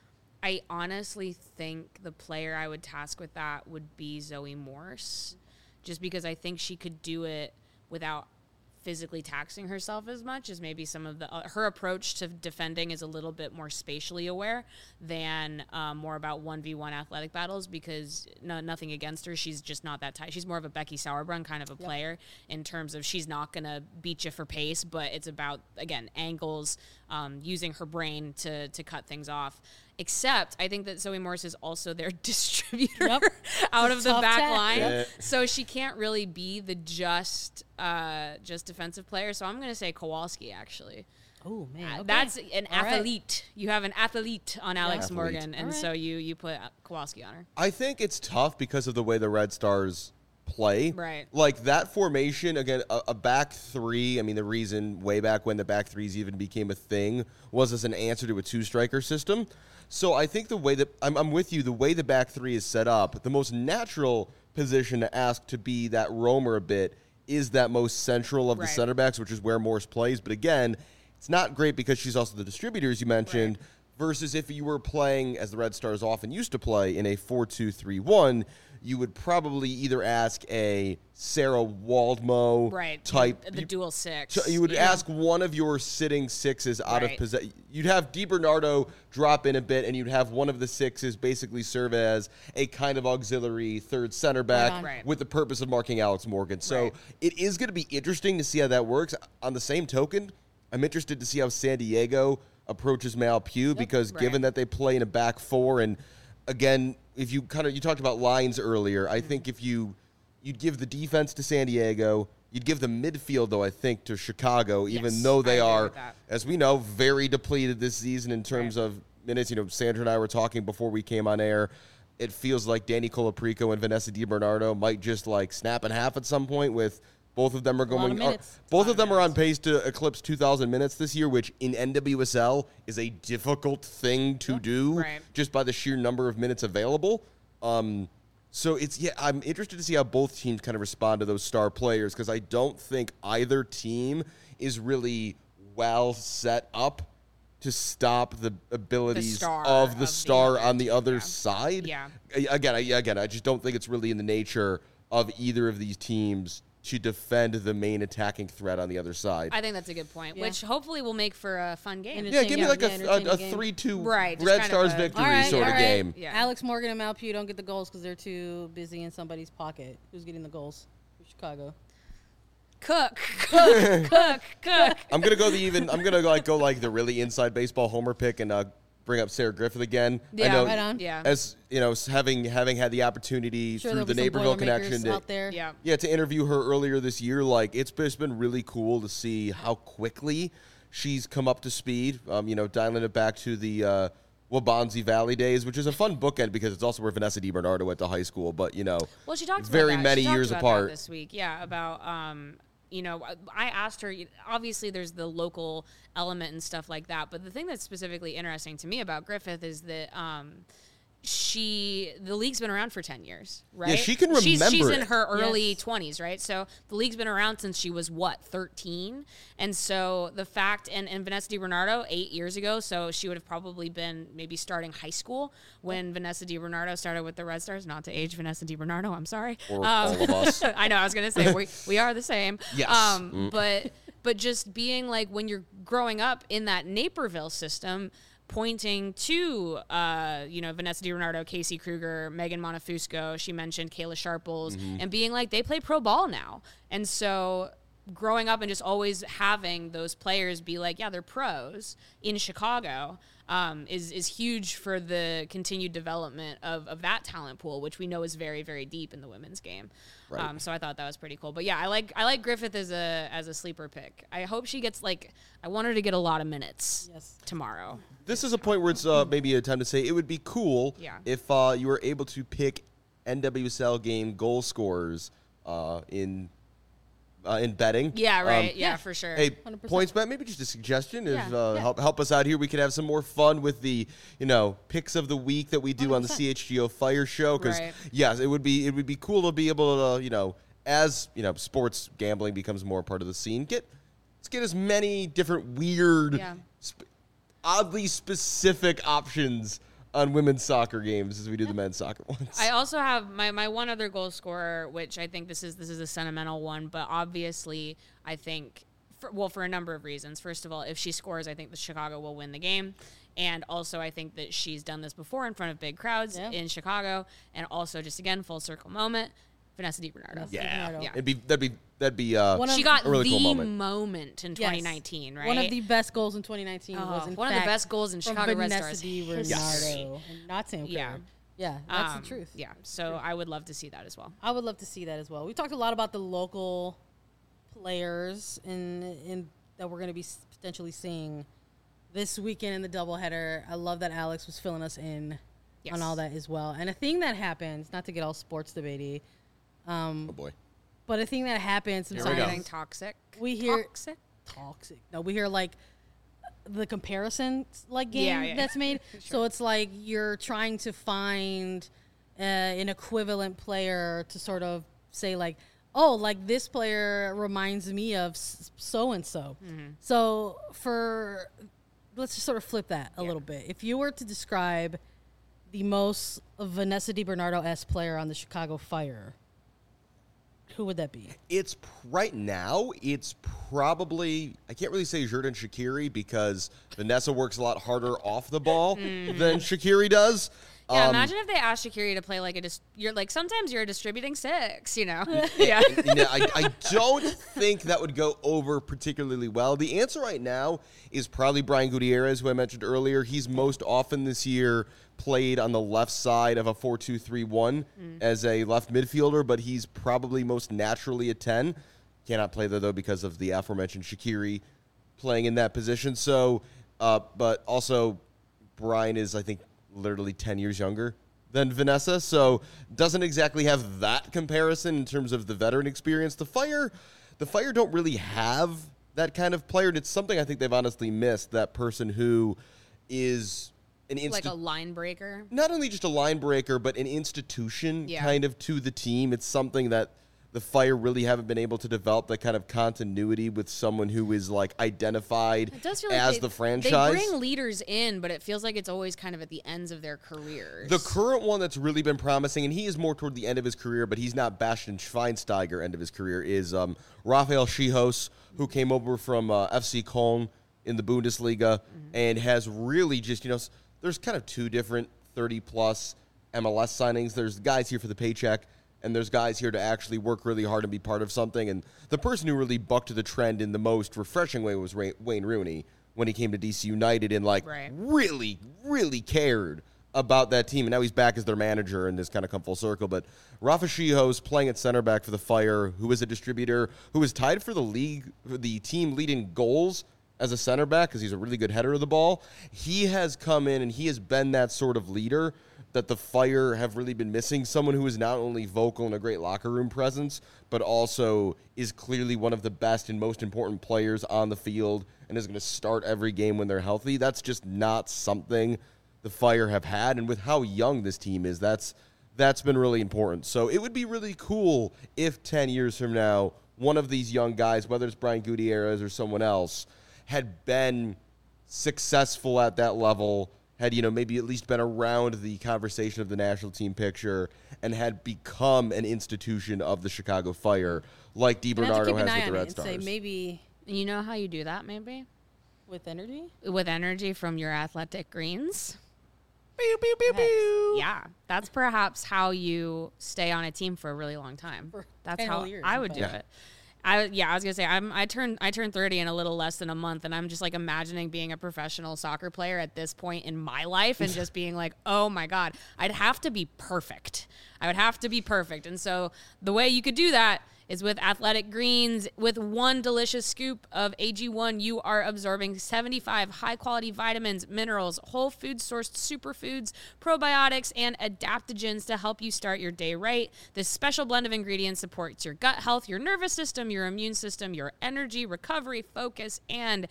I honestly think the player I would task with that would be Zoe Morse, just because I think she could do it without physically taxing herself as much as maybe some of the her approach to defending is a little bit more spatially aware than more about 1v1 athletic battles, because nothing against her, she's just not that type. She's more of a Becky Sauerbrunn kind of a player in terms of she's not gonna beat you for pace, but it's about, again, angles, using her brain to cut things off. Except I think that Zoe Morse is also their distributor Yep. out It's of a the tough back task. line. Yeah. So she can't really be the just defensive player. So I'm going to say Kowalski, actually. Oh, man. Okay. That's an All right. athlete. You have an athlete on Alex Athlete. Morgan, and All right. so you put Kowalski on her. I think it's tough because of the way the Red Stars play. Right. Like that formation, again, a back three. I mean, the reason way back when the back threes even became a thing was as an answer to a two-striker system. So I think the way that I'm with you, the way the back three is set up, the most natural position to ask to be that roamer a bit is that most central of the Right. center backs, which is where Morse plays. But again, it's not great because she's also the distributor, as you mentioned, versus if you were playing, as the Red Stars often used to play, in a 4-2-3-1, you would probably either ask a Sarah Waldmo Right. type. The dual six. So you would Yeah. ask one of your sitting sixes out of Right. possession. You'd have DiBernardo drop in a bit, and you'd have one of the sixes basically serve as a kind of auxiliary third center back on. Right. with the purpose of marking Alex Morgan. So Right. it is going to be interesting to see how that works. On the same token, I'm interested to see how San Diego approaches Mal Pugh because Right. given that they play in a back four, and again, if you talked about lines earlier, I think if you'd give the defense to San Diego, you'd give the midfield, though, I think, to Chicago, even Yes, though they I agree are, with that. as we know, very depleted this season in terms Right. of minutes. You know, Sandra and I were talking before we came on air. It feels like Danny Colaprico and Vanessa DiBernardo might just like snap in half at some point with Both of them are lot of going. minutes. Both of them are on pace to eclipse 2,000 minutes this year, which in NWSL is a difficult thing to do, Right. just by the sheer number of minutes available. So I'm interested to see how both teams kind of respond to those star players, because I don't think either team is really well set up to stop the abilities star of the of star the other on the team, other yeah. side. Yeah. Again, I just don't think it's really in the nature of either of these teams to defend the main attacking threat on the other side. I think that's a good point, Yeah. which hopefully will make for a fun game. And Yeah, give me like entertaining a game. 3-2 Right, just Red kind of Stars a- victory All right, sort all of right. game. Yeah. Alex Morgan and Malpew don't get the goals because they're too busy in somebody's pocket. Who's getting the goals? For Chicago. Cook. I'm gonna go go like the really inside baseball homer pick and bring up Sarah Griffith again. I Yeah, know, right on. Yeah. As you know, having had the opportunity Sure, through there'll the be some Naperville Boilermakers connection out there. Yeah. to interview her earlier this year, like it's been really cool to see how quickly she's come up to speed. Dialing it back to the Wabanzi Valley days, which is a fun bookend because it's also where Vanessa DiBernardo went to high school. But Well, she talked very about that. many She talked years about apart. that this week. Yeah, about I asked her. Obviously, there's the local element and stuff like that. But the thing that's specifically interesting to me about Griffith is that the league's been around for 10 years, right? Yeah, she can She's remember in it. her early Yes. 20s, right? So the league's been around since she was 13, and so the fact and Vanessa DiBernardo 8 years ago, so she would have probably been maybe starting high school when Vanessa DiBernardo started with the Red Stars. Not to age Vanessa DiBernardo, I'm sorry. Or all of us. I know. I was gonna say we are the same. Yes. But just being like when you're growing up in that Naperville system, pointing to Vanessa DiBernardo, Casey Kruger, Megan Monefusco. She mentioned Kayla Sharples, and being like they play pro ball now, and so growing up and just always having those players be like, yeah, they're pros in Chicago. Is huge for the continued development of that talent pool, which we know is very, very deep in the women's game. Right. So I thought that was pretty cool. But yeah, I like Griffith as a sleeper pick. I hope she gets I want her to get a lot of minutes tomorrow. This is a point where it's maybe a time to say it would be cool Yeah. if you were able to pick NWSL game goal scorers in betting. Yeah, right. Yeah, for sure. Hey, 100%. points bet, maybe just a suggestion. If Yeah. help us out here, we could have some more fun with the picks of the week that we do on the 100%. CHGO Fire Show. Because Right. yes, it would be cool to be able to as sports gambling becomes more part of the scene. Let's get as many different weird, Yeah. oddly specific options on women's soccer games as we do the men's soccer ones. I also have my one other goal scorer, which I think this is a sentimental one, but obviously I think for a number of reasons. First of all, if she scores, I think the Chicago will win the game. And also, I think that she's done this before in front of big crowds in Chicago. And also, just again, full circle moment, Vanessa DiBernardo. yeah, DiBernardo. Yeah. that'd be She got a really the cool moment. moment in 2019, right? One of the best goals in 2019 was in one of the fact best goals in from Chicago Red Vanessa Stars DiBernardo, history. and not Sam Kerr. Yeah. Yeah, that's the truth. Yeah, so I would love to see that as well. I would love to see that as well. We talked a lot about the local players in that we're going to be potentially seeing this weekend in the doubleheader. I love that Alex was filling us in Yes. on all that as well. And a thing that happens, not to get all sports debatey, Oh boy. but a thing that happens we go. sometimes Getting toxic. we hear toxic. No, we hear like the comparison game yeah. that's made. So it's like you're trying to find an equivalent player to sort of say like, oh, like this player reminds me of so and so. So let's just sort of flip that a little bit. If you were to describe the most Vanessa DiBernardo-esque player on the Chicago Fire, who would that be? It's right now. It's probably I can't really say Jordan Shaqiri because Vanessa works a lot harder off the ball than Shaqiri does. Yeah, imagine if they asked Shaqiri to play you're like sometimes you're distributing six, Yeah. I don't think that would go over particularly well. The answer right now is probably Brian Gutierrez, who I mentioned earlier. He's most often this year played on the left side of a 4-2-3-1 as a left midfielder, but he's probably most naturally a 10. Cannot play there, though, because of the aforementioned Shaqiri playing in that position. So, but also Brian is, I think, literally 10 years younger than Vanessa, so doesn't exactly have that comparison in terms of the veteran experience. The Fire, the Fire don't really have that kind of player. And it's something I think they've honestly missed, that person who is an Like a line breaker. not only just a line breaker, but an institution kind of to the team. It's something that the Fire really haven't been able to develop, that kind of continuity with someone who is like identified It does feel as like the franchise. They bring leaders in, but it feels like it's always kind of at the ends of their careers. The current one that's really been promising, and he is more toward the end of his career, but he's not Bastian Schweinsteiger end of his career, is Rafael Schihos, who came over from FC Köln in the Bundesliga and has really just, there's kind of two different 30-plus MLS signings. There's guys here for the paycheck, and there's guys here to actually work really hard and be part of something. And the person who really bucked the trend in the most refreshing way was Wayne Rooney when he came to DC United and, really, really cared about that team. And now he's back as their manager and has kind of come full circle. But Rafa Schihos playing at center back for the Fire, who is a distributor, who is tied for the team leading goals as a center back because he's a really good header of the ball. He has come in and he has been that sort of leader that the Fire have really been missing. Someone who is not only vocal and a great locker room presence, but also is clearly one of the best and most important players on the field and is going to start every game when they're healthy. That's just not something the Fire have had. And with how young this team is, that's been really important. So it would be really cool if 10 years from now, one of these young guys, whether it's Brian Gutierrez or someone else, had been successful at that level, had, maybe at least been around the conversation of the national team picture and had become an institution of the Chicago Fire like DiBernardo has with the Red Stars. Say maybe You know how you do that, maybe? with energy. With energy from your Athletic Greens. Pew, pew, pew, pew. Yeah, that's perhaps how you stay on a team for a really long time. For That's 10 how whole years, I would in do fact. it. I was gonna say I turned 30 in a little less than a month, and I'm just like imagining being a professional soccer player at this point in my life, and just being like, oh my god, I'd have to be perfect. I would have to be perfect, and so the way you could do that is with Athletic Greens. With one delicious scoop of AG1, you are absorbing 75 high-quality vitamins, minerals, whole food-sourced superfoods, probiotics, and adaptogens to help you start your day right. This special blend of ingredients supports your gut health, your nervous system, your immune system, your energy, recovery, focus, and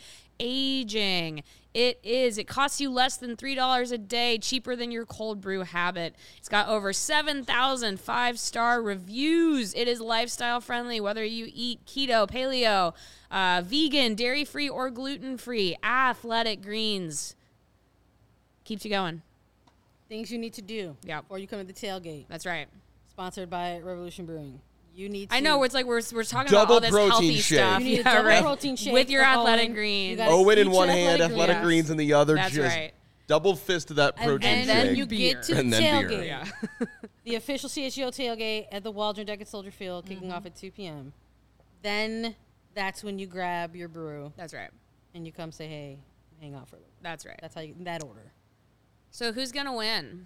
aging. It costs you less than $3 a day, cheaper than your cold brew habit. It's got over 7,000 5-star reviews. It is lifestyle friendly, whether you eat keto, paleo, vegan, dairy-free, or gluten-free. Athletic Greens keeps you going. Things you need to do before you come to the tailgate. That's right. Sponsored by Revolution Brewing. You need to. I know it's like we're talking Double about all this protein healthy shake. stuff. You need a double right. protein shake with your for Athletic Owen. Greens. You gotta Owen in eat one your hand, Athletic Athletic Greens. Greens in the other. That's just right. double fist of that protein And then shake. you get to the And then tailgate. beer. Yeah. The official CHGO tailgate at the Waldron Deck at Soldier Field, kicking off at 2 p.m. Then that's when you grab your brew That's right. and you come say, hey, hang out for a little. That's right. That's how you, in that order. So who's gonna win?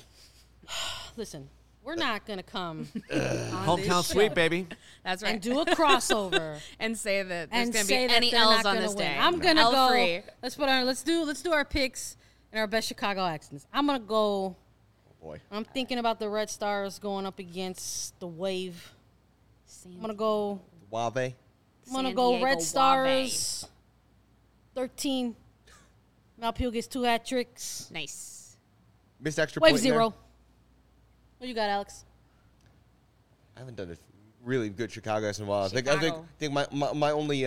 Listen, we're not going to come on Hometown this sweep, show baby. That's right. and do a crossover And say that there's and gonna say be that any they're L's not on gonna this win. day. I'm going to L go. free. Let's do our picks and our best Chicago accents. I'm going to go. Boy. I'm thinking about the Red Stars going up against the Wave. I'm going to go. Wave. I'm going to San go Diego Red Wave. Stars 13. Malpeel gets 2 hat tricks. Nice. Missed extra Wave point there. 0. What you got, Alex? I haven't done a really good Chicago in a while. I Chicago. think my only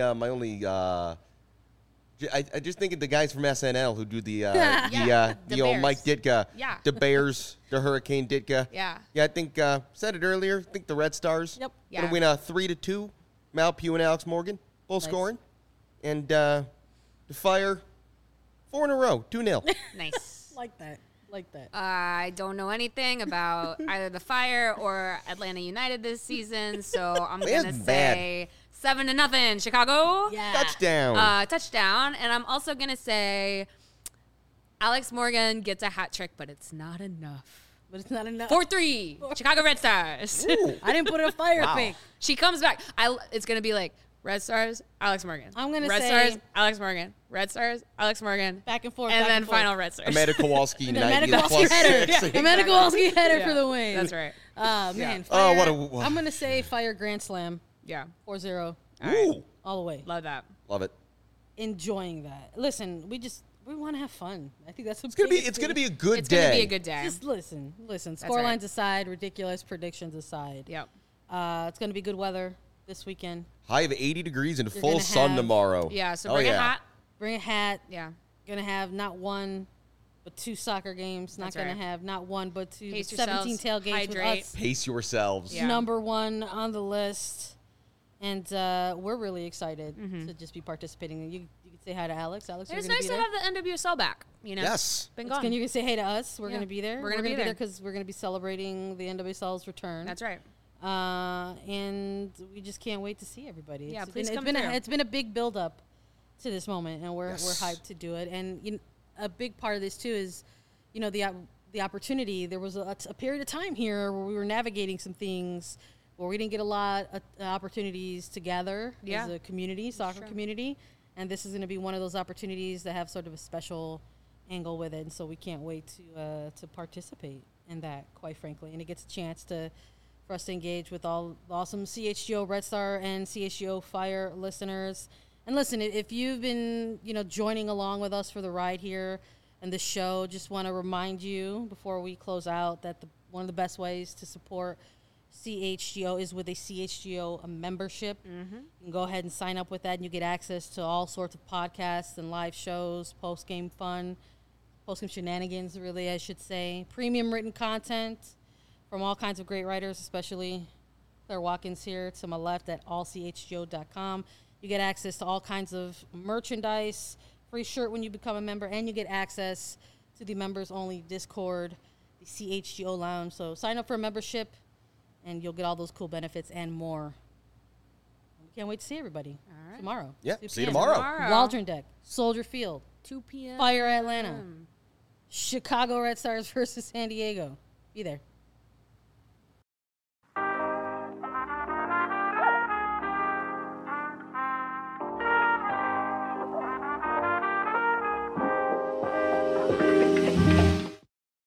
I just think of the guys from SNL who do the The old Bears. Mike Ditka, Yeah. the Bears, the Hurricane Ditka. Yeah. I think said it earlier. I think the Red Stars. Yep. Gonna Yeah. win 3-2. Malpugh and Alex Morgan both Nice. scoring, and the Fire 4 in a row, 2-0. Nice. Like that. Like that. I don't know anything about either the Fire or Atlanta United this season, so I'm That's gonna bad. say 7-0 Chicago. Yeah. Touchdown. Touchdown, and I'm also gonna say Alex Morgan gets a hat trick, but it's not enough. But it's not enough. 4-3 Chicago Red Stars. Ooh. I didn't put a fire pick. She comes back. It's gonna be like Red Stars, Alex Morgan. I'm gonna Red say- Stars, Alex Morgan. Red Stars, Alex Morgan. Back and forth. And back then forth. final Red Stars. Amanda Kowalski, The 90 Kowalski plus header. 6. The Amanda Kowalski header Yeah, for the win. That's right. Man. Oh, Fire, what a- I'm going to say Fire Grand Slam Yeah. 4-0. All right. Ooh, all the way. Love that. love it. Enjoying that. Listen, we want to have fun. I think that's It's gonna be a good It's day. going to be a good day. Just listen. right. Scorelines aside, ridiculous predictions aside. Yep. It's going to be good weather this weekend. High of 80 degrees and You're full gonna sun have- tomorrow. Yeah, so Oh, bring a yeah. hat. Bring a hat. Yeah. Going to have not one, but 2 soccer games. Not That's going right. to have not one, but 2. Pace 17 yourselves, tailgates hydrate. with us. Pace yourselves. Yeah. Number 1 on the list. And we're really excited to just be participating. You can say hi to Alex. Alex, It's you're going nice to be to there. have the NWSL back. You know? Yes. Been Can gone. you say hey to us? We're Yeah. going to be there. We're gonna be be there. because we're going to be celebrating the NWSL's return. That's right. And we just can't wait to see everybody. Yeah, It's please been, come it's been through. it's been a big build up to this moment, and we're Yes. hyped to do it. And a big part of this too is, the opportunity. There was a period of time here where we were navigating some things where we didn't get a lot of opportunities to gather Yeah. as a community, soccer community. And this is going to be one of those opportunities that have sort of a special angle with it. And so we can't wait to participate in that, quite frankly. And it gets a chance for us to engage with all the awesome CHGO Red Star and CHGO Fire listeners. And listen, if you've been, joining along with us for the ride here and the show, just want to remind you before we close out that one of the best ways to support CHGO is with a CHGO membership. You can go ahead and sign up with that, and you get access to all sorts of podcasts and live shows, post-game fun, post-game shenanigans, really, I should say. Premium written content from all kinds of great writers, especially Claire Watkins here to my left at allchgo.com. You get access to all kinds of merchandise, free shirt when you become a member, and you get access to the members-only Discord, the CHGO Lounge. So sign up for a membership, and you'll get all those cool benefits and more. We can't wait to see everybody tomorrow. Yeah, 2 see you p.m. tomorrow. Waldron Deck, Soldier Field, 2 p.m. Fire Atlanta, Chicago Red Stars versus San Diego. Be there.